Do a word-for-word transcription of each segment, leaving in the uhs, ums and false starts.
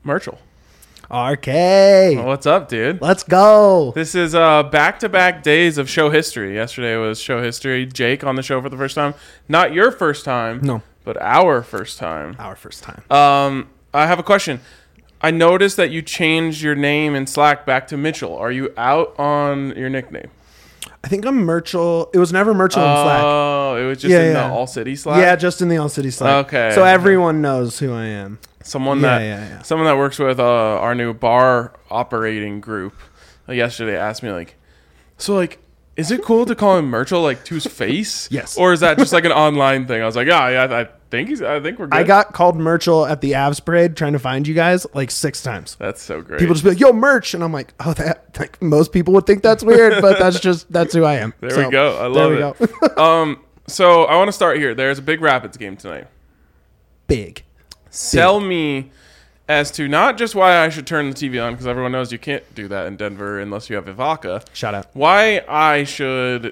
Myrtle. R K. Well, what's up, dude? Let's go. This is uh, back-to-back days of show history. Yesterday was show history. Jake on the show for the first time. Not your first time. No. But our first time. Our first time. Um, I have a question. I noticed that you changed your name in Slack back to Mitchell. Are you out on your nickname? I think I'm Merchel. It was never Merchel in Slack. Oh, it was just Yeah, in yeah. the All City Slack? Yeah, just in the All City Slack. Okay. So everyone knows who I am. Someone Yeah, that yeah, yeah. someone that works with uh, our new bar operating group uh, yesterday asked me like, so like, is it cool to call him Myrtle like to his face? Yes. Or is that just like an online thing? I was like, yeah, yeah, I think he's. I think we're good. I got called Merchel at the Avs parade trying to find you guys like six times. That's so great. People just be like, "Yo, merch," and I'm like, "Oh, that." Like most people would think that's weird, but that's just that's who I am. There So, we go. I there love we it. go. um, so I want to start here. There's a big Rapids game tonight. Big. Sell me as to not just why I should turn the T V on, because everyone knows you can't do that in Denver unless you have Ivaka. Shout out. Why I should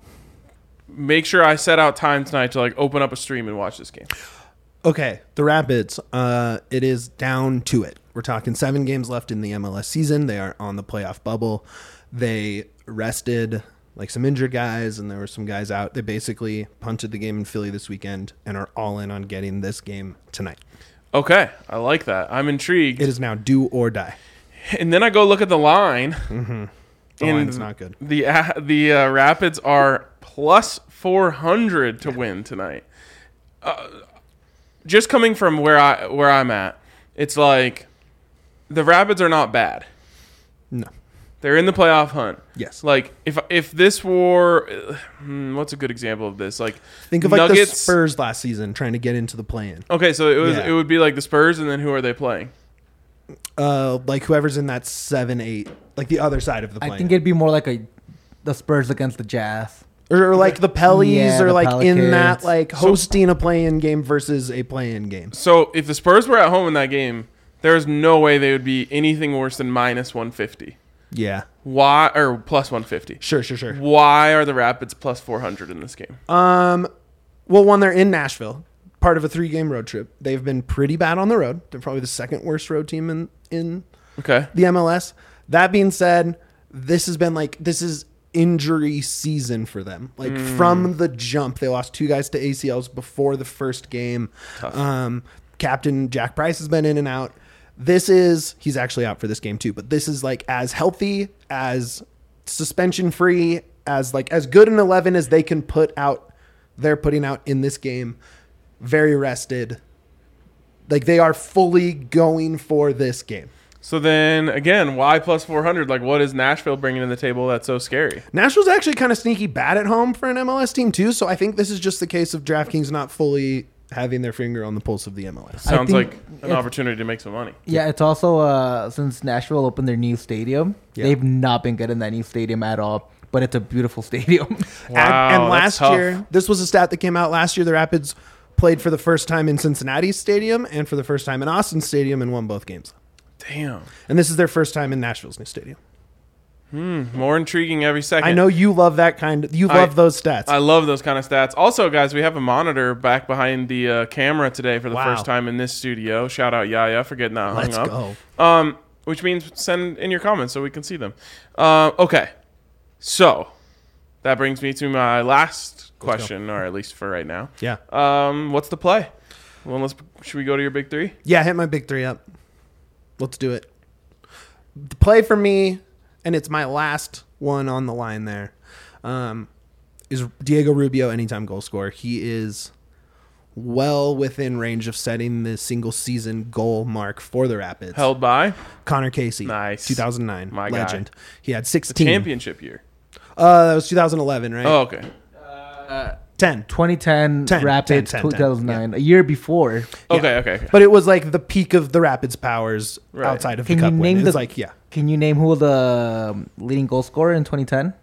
make sure I set out time tonight to like open up a stream and watch this game. Okay, the Rapids. Uh, it is down to it. We're talking seven games left in the M L S season. They are on the playoff bubble. They rested like some injured guys, and there were some guys out. They basically punted the game in Philly this weekend and are all in on getting this game tonight. Okay, I like that. I'm intrigued. It is now do or die. And then I go look at the line. Mm-hmm. The and line's not good. The uh, the uh, Rapids are plus four hundred to win tonight. Uh, just coming from where I where I'm at, it's like the Rapids are not bad. No. They're in the playoff hunt. Yes. Like if if this were, uh, hmm, what's a good example of this? Like Think of like Nuggets, the Spurs last season trying to get into the play-in. Okay, so it was Yeah. it would be like the Spurs, and then who are they playing? Uh, like whoever's in that seven eight, like the other side of the play-in. I think it'd be more like a the Spurs against the Jazz. Or, or like the Pellies, Yeah, or the like in that Pelicans. like hosting a play-in game versus a play-in game. So if the Spurs were at home in that game, there's no way they would be anything worse than minus one fifty. Yeah, Why or plus one fifty? sure, sure, sure. Why are the Rapids plus four hundred in this game? Um, well, one, they're in Nashville, part of a three-game road trip. They've been pretty bad on the road. They're probably the second worst road team in in Okay. the M L S. That being said, this has been like this is injury season for them. Like Mm. from the jump, they lost two guys to A C Ls before the first game. Tough. Um, Captain Jack Price has been in and out. This is he's actually out for this game too, but this is like as healthy, as suspension free, as like as good an eleven as they can put out. They're putting out in this game. Very rested. Like they are fully going for this game. So then again, why plus four hundred? Like what is Nashville bringing to the table that's so scary? Nashville's actually kind of sneaky bad at home for an M L S team too, so I think this is just the case of DraftKings not fully having their finger on the pulse of the M L S. Sounds think like an if- opportunity to make some money. Yeah, it's also uh, since Nashville opened their new stadium, Yeah. they've not been good in that new stadium at all. But it's a beautiful stadium. Wow, and, and that's last tough. year, this was a stat that came out last year, the Rapids played for the first time in Cincinnati's stadium and for the first time in Austin Stadium and won both games. Damn. And this is their first time in Nashville's new stadium. More intriguing every second. I know you love that kind of, you I- love those stats. I love those kind of stats. Also, guys, we have a monitor back behind the uh, camera today for the Wow. first time in this studio. Shout out Yaya for getting that hung Let's up. go. Um, which means send in your comments so we can see them. Uh, okay, so that brings me to my last question, or at least for right now. Yeah. Um, what's the play? Well, let's. Should we go to your big three? Yeah, hit my big three up. Let's do it. The play for me, and it's my last one on the line there, um, is Diego Rubio, anytime goal scorer. He is well within range of setting the single season goal mark for the Rapids. Held by Connor Casey. Nice. two thousand nine. My guy. legend. He had the sixteen. championship year. Uh, that was two thousand eleven, right? Oh, okay. ten. twenty ten ten, Rapids, ten, ten, two thousand nine, a year before. Okay, okay, okay. But it was like the peak of the Rapids' powers Right. outside of Can the you cup win. name It was the- like, yeah. Can you name who was the um, leading goal scorer in twenty ten?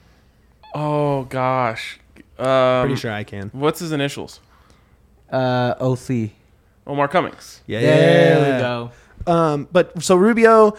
Oh gosh. Um, Pretty sure I can. What's his initials? Uh, O C. Omar Cummings. Yeah. There we go. Um, but so Rubio,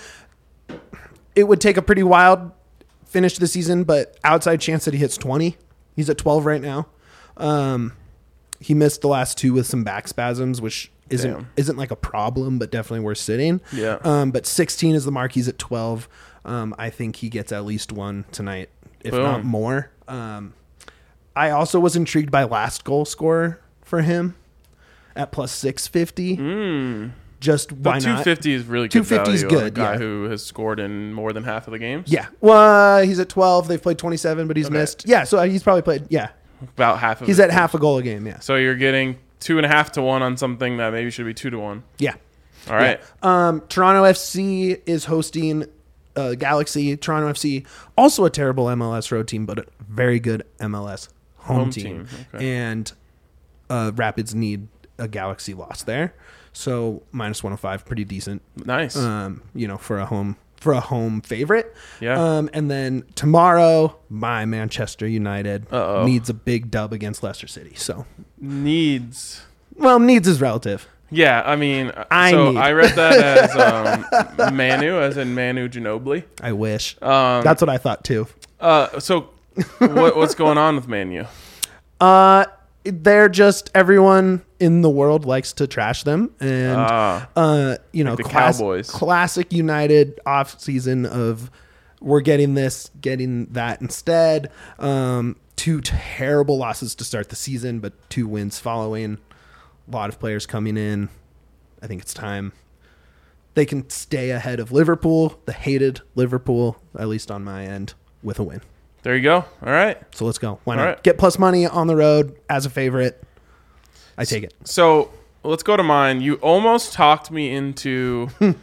it would take a pretty wild finish to the season, but outside chance that he hits twenty. He's at twelve right now. Um, he missed the last two with some back spasms, which isn't Damn. isn't like a problem, but definitely worth sitting. Yeah. Um, but sixteen is the mark. He's at twelve. Um, I think he gets at least one tonight, if Boom. not more. Um, I also was intrigued by last goal scorer for him at plus six fifty. Mm. Just why But not? two fifty is really good two fifty is value on a good, guy yeah. who has scored in more than half of the games. Yeah. Well, uh, he's at twelve. They've played twenty-seven, but he's Okay. missed. Yeah, so he's probably played. Yeah, About half of he's his at half a goal a game. Yeah. So you're getting two and a half to one on something that maybe should be two to one. Yeah. All right. Yeah. Um, Toronto F C is hosting uh, Galaxy. Toronto F C, also a terrible M L S road team, but a very good M L S home, Home team. team, okay. And uh, Rapids need a Galaxy loss there, so minus one hundred five, pretty decent. Nice. Um, you know, for a home for a home favorite. Yeah. Um, and then tomorrow, my Manchester United Uh-oh. needs a big dub against Leicester City. So, Needs. well, needs is relative. Yeah, I mean, I so need. I read that as um, Manu, as in Manu Ginobili. I wish. Um, That's what I thought too. uh, so what, what's going on with Manu? Uh, they're just everyone in the world likes to trash them, and Ah. uh, you know, Like the class- Cowboys. classic United off season of we're getting this, getting that instead. Um, two terrible losses to start the season, but two wins following. A lot of players coming in. I think it's time they can stay ahead of Liverpool, the hated Liverpool, at least on my end, with a win. There you go. All right. So let's go. Why All not? right. Get plus money on the road as a favorite. I take it. So let's go to mine. You almost talked me into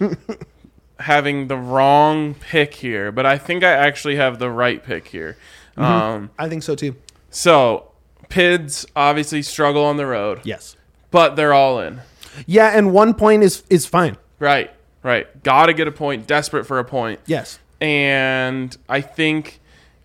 having the wrong pick here, but I think I actually have the right pick here. Um, I think so too. so P I Ds obviously struggle on the road, Yes. but they're all in. Yeah, and one point is is fine. Right, right. Got to get a point. Desperate for a point. Yes. And I think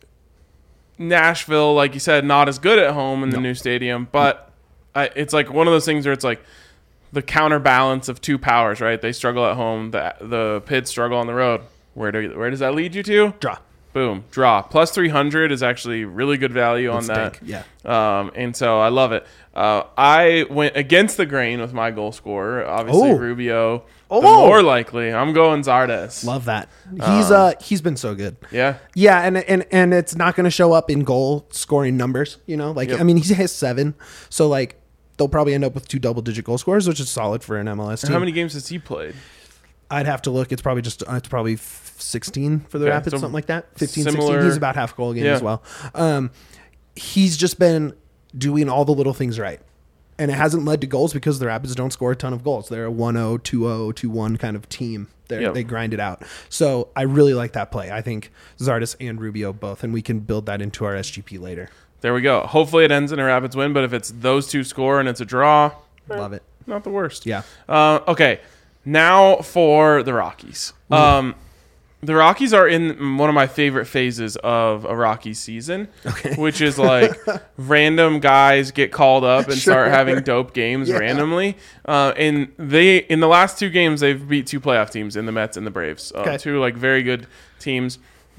Nashville, like you said, not as good at home in the new stadium, but I, it's like one of those things where it's like the counterbalance of two powers, right? They struggle at home, the the P I Ds struggle on the road. Where do where does that lead you to? Draw. Boom, draw. Plus three hundred is actually really good value on that. Stink. Yeah. Um, and so I love it. Uh, I went against the grain with my goal scorer. Obviously, Oh. Rubio. Oh. The more likely, I'm going Zardes. Love that. He's uh he's been so good. Yeah. Yeah, and and and it's not going to show up in goal scoring numbers, you know? Like Yep. I mean, he has seven. So like they'll probably end up with two double digit goal scores, which is solid for an M L S team. How many games has he played? I'd have to look. It's probably just uh, it's probably sixteen for the Okay, Rapids, so something like that. fifteen, similar- sixteen. He's about half a goal a game Yeah. as well. Um, he's just been doing all the little things right. And it hasn't led to goals because the Rapids don't score a ton of goals. They're a one oh, two oh, two one kind of team. They're, Yep. They grind it out. So I really like that play. I think Zardes and Rubio both, and we can build that into our S G P later. There we go. Hopefully it ends in a Rapids win, but if it's those two score and it's a draw, eh, Love it. not the worst. Yeah. Uh, okay, now for the Rockies. Um, the Rockies are in one of my favorite phases of a Rockies season, Okay. which is like random guys get called up and start Sure. having dope games Yeah. randomly. Uh, and they in the last two games they've beat two playoff teams in the Mets and the Braves, uh, Okay. two like very good teams.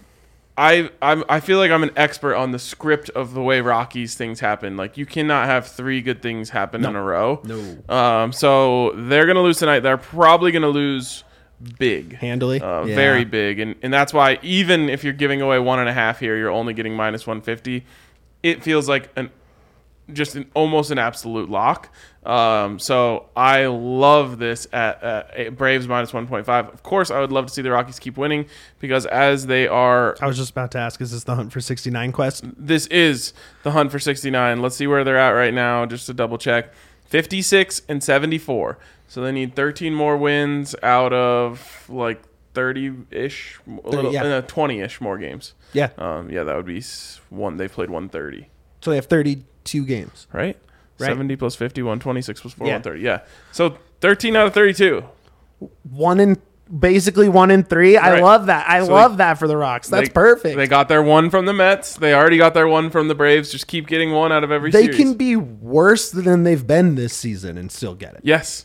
I I'm, I feel like I'm an expert on the script of the way Rockies things happen. Like you cannot have three good things happen in a row. No. Um, so they're gonna lose tonight. They're probably gonna lose big, Handily. uh, Yeah. very big, and and that's why even if you're giving away one and a half here, you're only getting minus one fifty. It feels like an just an, almost an absolute lock. Um, so I love this at, at Braves minus one point five. Of course, I would love to see the Rockies keep winning because as they are, I was just about to ask, is this the Hunt for sixty-nine quest? this is the hunt for sixty-nine. Let's see where they're at right now, just to double check. fifty-six and seventy-four. So they need thirteen more wins out of like thirty-ish, a little, yeah. uh, twenty-ish more games. Yeah. Um, yeah, that would be s- one. They played one thirty, So they have thirty-two games. right? Right. seventy plus fifty, one twenty-six plus four, Yeah. one thirty. Yeah. So thirteen out of thirty-two. One in basically one in three. I Right. love that. I So love they- that for the Rocks. That's They- perfect. They got their one from the Mets. They already got their one from the Braves. Just keep getting one out of every They series. can be worse than they've been this season and still get it. Yes.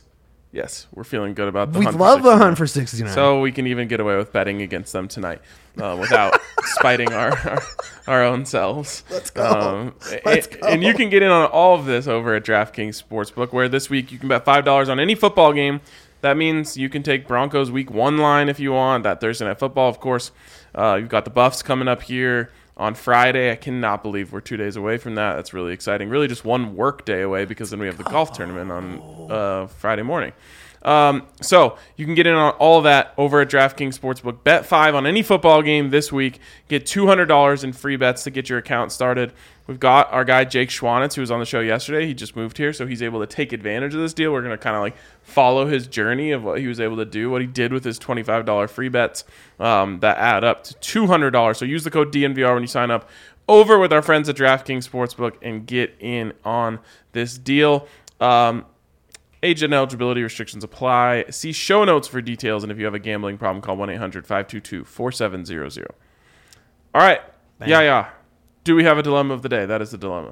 Yes, we're feeling good about the We hunt for love the sixty-nine. hunt for sixty-nine. So we can even get away with betting against them tonight uh, without spiting our, our our own selves. Let's go. Um, Let's and, go. and you can get in on all of this over at DraftKings Sportsbook, where this week you can bet five dollars on any football game. That means you can take Broncos Week One line if you want. That Thursday Night Football, of course. Uh, you've got the Buffs coming up here on Friday. I cannot believe we're two days away from that. That's really exciting. Really just one work day away, because then we have the golf tournament on uh, Friday morning. Um, so you can get in on all of that over at DraftKings Sportsbook. Bet five on any football game this week. Get two hundred dollars in free bets to get your account started. We've got our guy Jake Schwanitz, who was on the show yesterday. He just moved here, so he's able to take advantage of this deal. We're going to kind of like follow his journey of what he was able to do, what he did with his twenty-five dollars free bets um, that add up to two hundred dollars. So use the code D N V R when you sign up over with our friends at DraftKings Sportsbook and get in on this deal. Um, Age and eligibility restrictions apply. See show notes for details, and if you have a gambling problem, call one eight hundred five two two four seven zero zero. All right. Bang. Yeah, yeah. Do we have a dilemma of the day? That is the dilemma.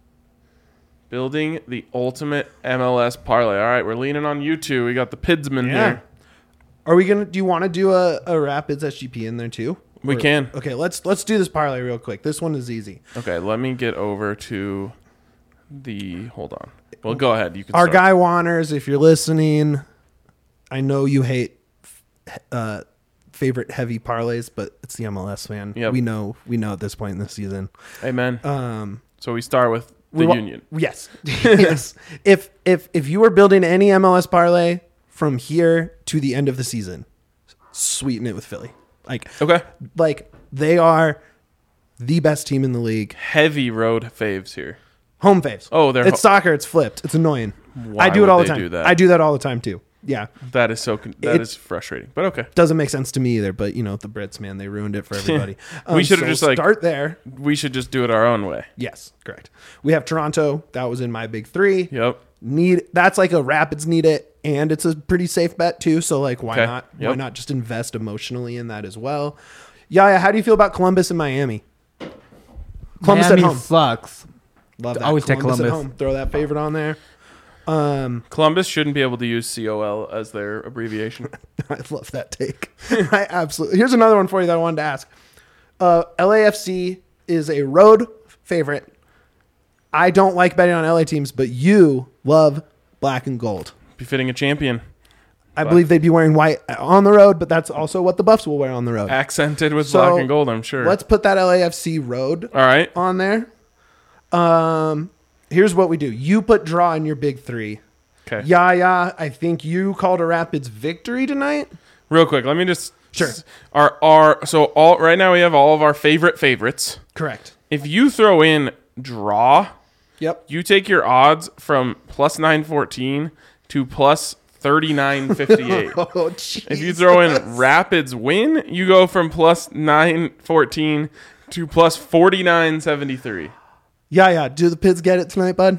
Building the ultimate M L S parlay. All right, we're leaning on you two. We got the Pidsman Yeah. here. Are we gonna? Do you want to do a, a Rapids S G P in there too? We Or- can. Okay, let's let's do this parlay real quick. This one is easy. Okay, let me get over to the... Hold on. Well, go ahead. You can Our start. guy Wanners, if you're listening, I know you hate uh, favorite heavy parlays, but it's the M L S, man. Yep. We know we know at this point in the season. Amen. Um, So we start with the we wa- Union. Yes, yes. If if if you were building any M L S parlay from here to the end of the season, sweeten it with Philly. Like Okay. like they are the best team in the league. Heavy road faves here. Home faves. Oh, they're it's ho- soccer. It's flipped. It's annoying. Why I do it would all the they time. do that? I do that all the time too. Yeah, That is so. Con- that It- is frustrating. But okay. doesn't make sense to me either. But you know the Brits, man, they ruined it for everybody. Um, We should've so just, like- start there. We should just do it our own way. Yes, correct. We have Toronto. That was in my big three. Yep. Need that's like a Rapids need it, and it's a pretty safe bet too. So like, why Okay. not? Why Yep. not just invest emotionally in that as well? Yaya, how do you feel about Columbus and Miami? Columbus Miami at home. sucks. Love that. always take at Columbus. home. Throw that favorite on there. Um, Columbus shouldn't be able to use C O L as their abbreviation. I love that take. I absolutely. Here's another one for you that I wanted to ask. Uh, L A F C is a road favorite. I don't like betting on L A teams, but you love black and gold. Befitting a champion. I believe they'd be wearing white on the road, but that's also what the Buffs will wear on the road. Accented with So, black and gold, I'm sure. Let's put that L A F C road All right. on there. Um, here's what we do. You put draw in your big three. Okay. Yaya, I think you called a Rapids victory tonight. Real quick, let me just. Sure. Our, our, so all right now we have all of our favorite favorites. Correct. If you throw in draw, Yep. you take your odds from plus nine fourteen to plus thirty-nine fifty-eight. Oh, jeez. If you throw in Rapids win, you go from plus nine fourteen to plus forty-nine seventy-three. Yeah, yeah. Do the Pids get it tonight, bud?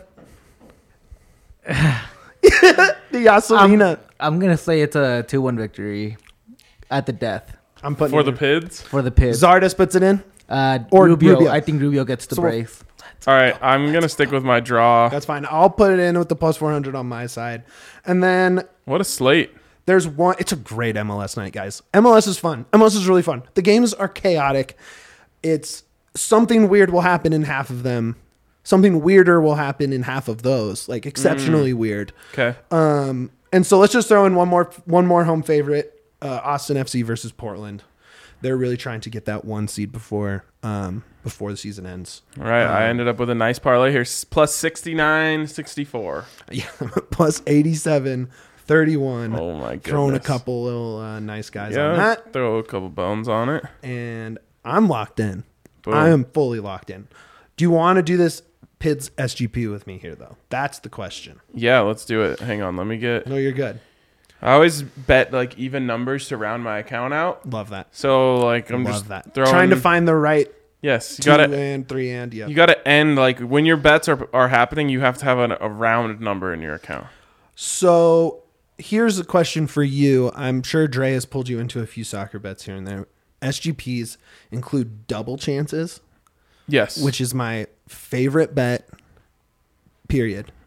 The Yaselina. I'm gonna say it's a two one victory at the death I'm putting For it the in. Pids. for the Pids. Zardes puts it in. Uh, Or Rubio, Rubio. I think Rubio gets the So- brace. All right, I'm going to stick with my draw. That's fine. I'll put it in with the plus four hundred on my side. And then What a slate. there's one. It's a great M L S night, guys. M L S is fun. M L S is really fun. The games are chaotic. It's something weird will happen in half of them. Something weirder will happen in half of those, like exceptionally weird. Okay. Um, and so let's just throw in one more one more home favorite, uh, Austin F C versus Portland. They're really trying to get that one seed before um, before the season ends. All right, I ended up with a nice parlay here. s- Plus sixty-nine sixty-four. Yeah, plus eighty-seven thirty-one. Oh, my goodness. Throwing a couple little uh, nice guys on Yeah, that. throw a couple bones on it. And I'm locked in. Boom. I am fully locked in. Do you want to do this Pids S G P with me here, though? That's the question. Yeah, let's do it. Hang on, let me get... No, you're good. I always bet, like, even numbers to round my account out. Love that. So, like, I'm Love just that. throwing... Trying to find the right Yes, you two got to... and three and, yeah. You got to end, like, when your bets are, are happening, you have to have an, a round number in your account. So here's a question for you. I'm sure Dre has pulled you into a few soccer bets here and there. S G Ps include double chances, Yes. which is my favorite bet, period.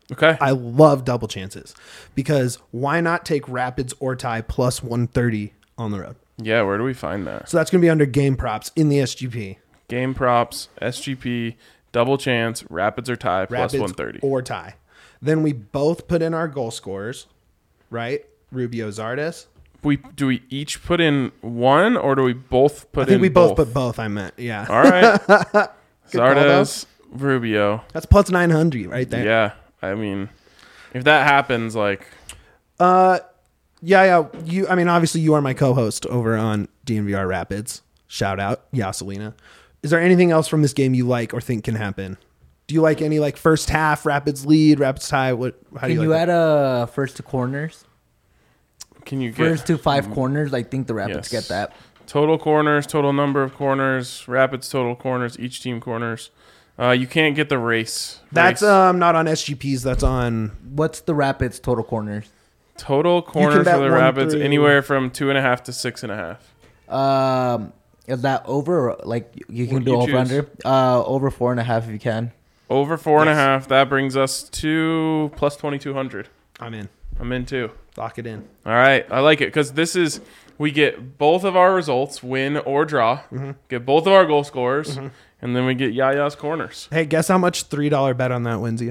Okay. I love double chances because why not take Rapids or tie plus one thirty on the road? Yeah, where do we find that? So that's going to be under game props in the S G P. Game props, S G P, double chance, Rapids or tie, plus Rapids one thirty. or tie. Then we both put in our goal scorers, right? Rubio, Zardes. We do we each put in one, or do we both put in I think we both, both put both, I meant. Yeah. All right. Good call, Zardes, Rubio. That's plus nine hundred right there. Yeah. I mean, if that happens, like, Uh, yeah, yeah. You, I mean, obviously, you are my co-host over on D N V R Rapids. Shout out, Yaselina. Is there anything else from this game you like or think can happen? Do you like any like first half Rapids lead, Rapids tie? What? How Can do you, you like add a first to corners? can you get First to five corners. I think the Rapids Yes. get that. total corners, total number of corners, Rapids total corners, each team corners? Uh, you can't get the race. That's race. um not on S G Ps. That's on. What's the Rapids total corners? Total corners bet for the one Rapids through- anywhere from two and a half to six and a half. Um, is that over? Or like you can What do do you over choose? under. Uh, over four and a half if you can. Over four and a Yes. half. That brings us to plus twenty two hundred. I'm in. I'm in too. Lock it in. All right, I like it because this is we get both of our results, win or draw. Mm-hmm. Get both of our goal scorers, and then we get Yaya's corners. Hey, guess how much three dollar bet on that wins you?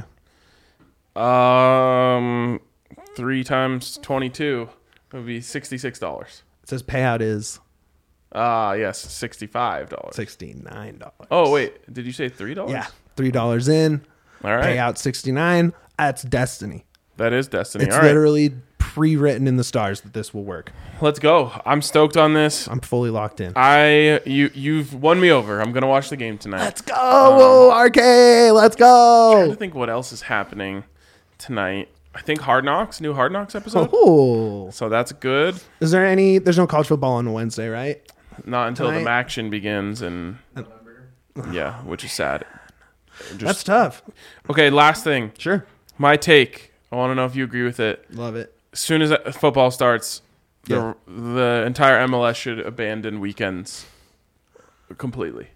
Um, three times twenty-two would be sixty-six dollars. It says payout is Ah, yes, sixty-five dollars. sixty nine dollars. Oh wait, did you say three dollars? Yeah, three dollars in. All right, Payout sixty nine. That's destiny. that is destiny. It's All right, literally pre-written in the stars that this will work. let's go. I'm stoked on this. I'm fully locked in. I you you've won me over. I'm gonna watch the game tonight. Let's go, Whoa, R K. Let's I'm trying go. to think what else is happening tonight. I think Hard Knocks, new Hard Knocks episode. Oh, So that's good. is there any? There's no college football on Wednesday, right? Not until Tonight? the action begins, and yeah, which is sad. Just- That's tough. okay. Last thing, Sure, my take. I want to know if you agree with it. love it. As soon as that football starts, the Yeah. the entire M L S should abandon weekends completely.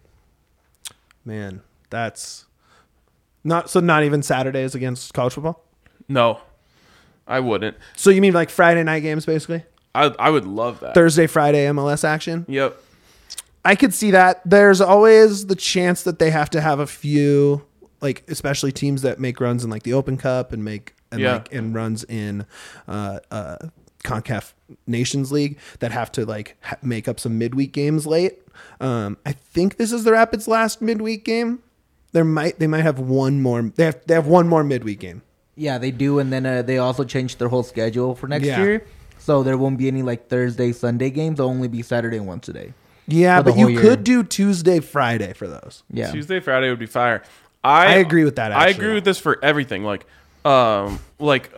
Man, that's not so. Not even Saturdays against college football. No, I wouldn't. So you mean like Friday night games, basically? I I would love that. Thursday, Friday M L S action. Yep. I could see that. There's always the chance that they have to have a few, like especially teams that make runs in like the Open Cup and make and Yeah. like and runs in uh, uh, CONCACAF Nations League that have to like ha- make up some midweek games late. Um, I think this is the Rapids' last midweek game. There might they might have one more. They have they have one more midweek game. Yeah, they do, and then uh, they also changed their whole schedule for next Yeah. year. So there won't be any like Thursday, Sunday games. They'll only be Saturday and once a day. Yeah, For the but you whole year. could do Tuesday, Friday for those. Yeah. Tuesday, Friday would be fire. I I agree with that, I actually. agree with this for everything. Like, um, like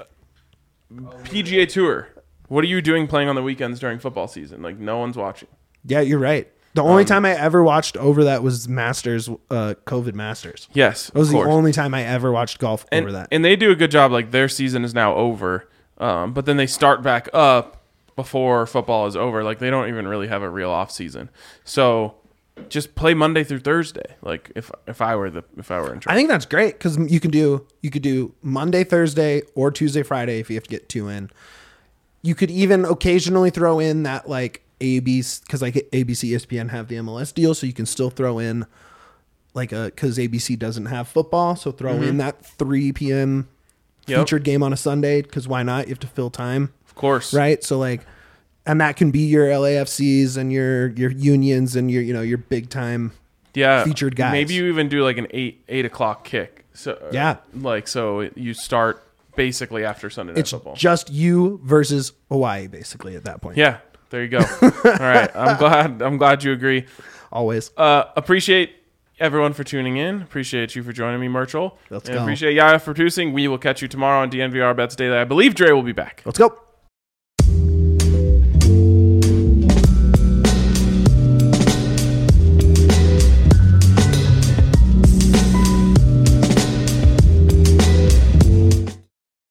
P G A Tour. What are you doing playing on the weekends during football season? Like, no one's watching. Yeah, you're right. The only Um, time I ever watched over that was Masters, uh, COVID Masters. Yes, That was of the course. only time I ever watched golf and, over that. and they do a good job. Like, their season is now over, um, but then they start back up before football is over. Like, they don't even really have a real off season. So just play Monday through Thursday. Like, if if I were the if I were in charge. I think that's great because you can do you could do Monday, Thursday, or Tuesday, Friday if you have to get two in. You could even occasionally throw in that like A B C because like A B C, E S P N have the M L S deal, so you can still throw in like a because A B C doesn't have football, so throw in that three p.m. Yep. featured game on a Sunday because why not? You have to fill time. Of course. Right. So like, and that can be your L A F Cs and your your unions and your you know your big time. Yeah. Featured guys. Maybe you even do like an eight eight o'clock kick. So Yeah. Like so you start basically after Sunday Night It's Football. just you versus Hawaii basically at that point. Yeah. There you go. All right. I'm glad I'm glad you agree. Always. Uh, appreciate everyone for tuning in. Appreciate you for joining me, Murchel. Let's and go. appreciate Yaya for producing. We will catch you tomorrow on D N V R Bets Daily. I believe Dre will be back. Let's go.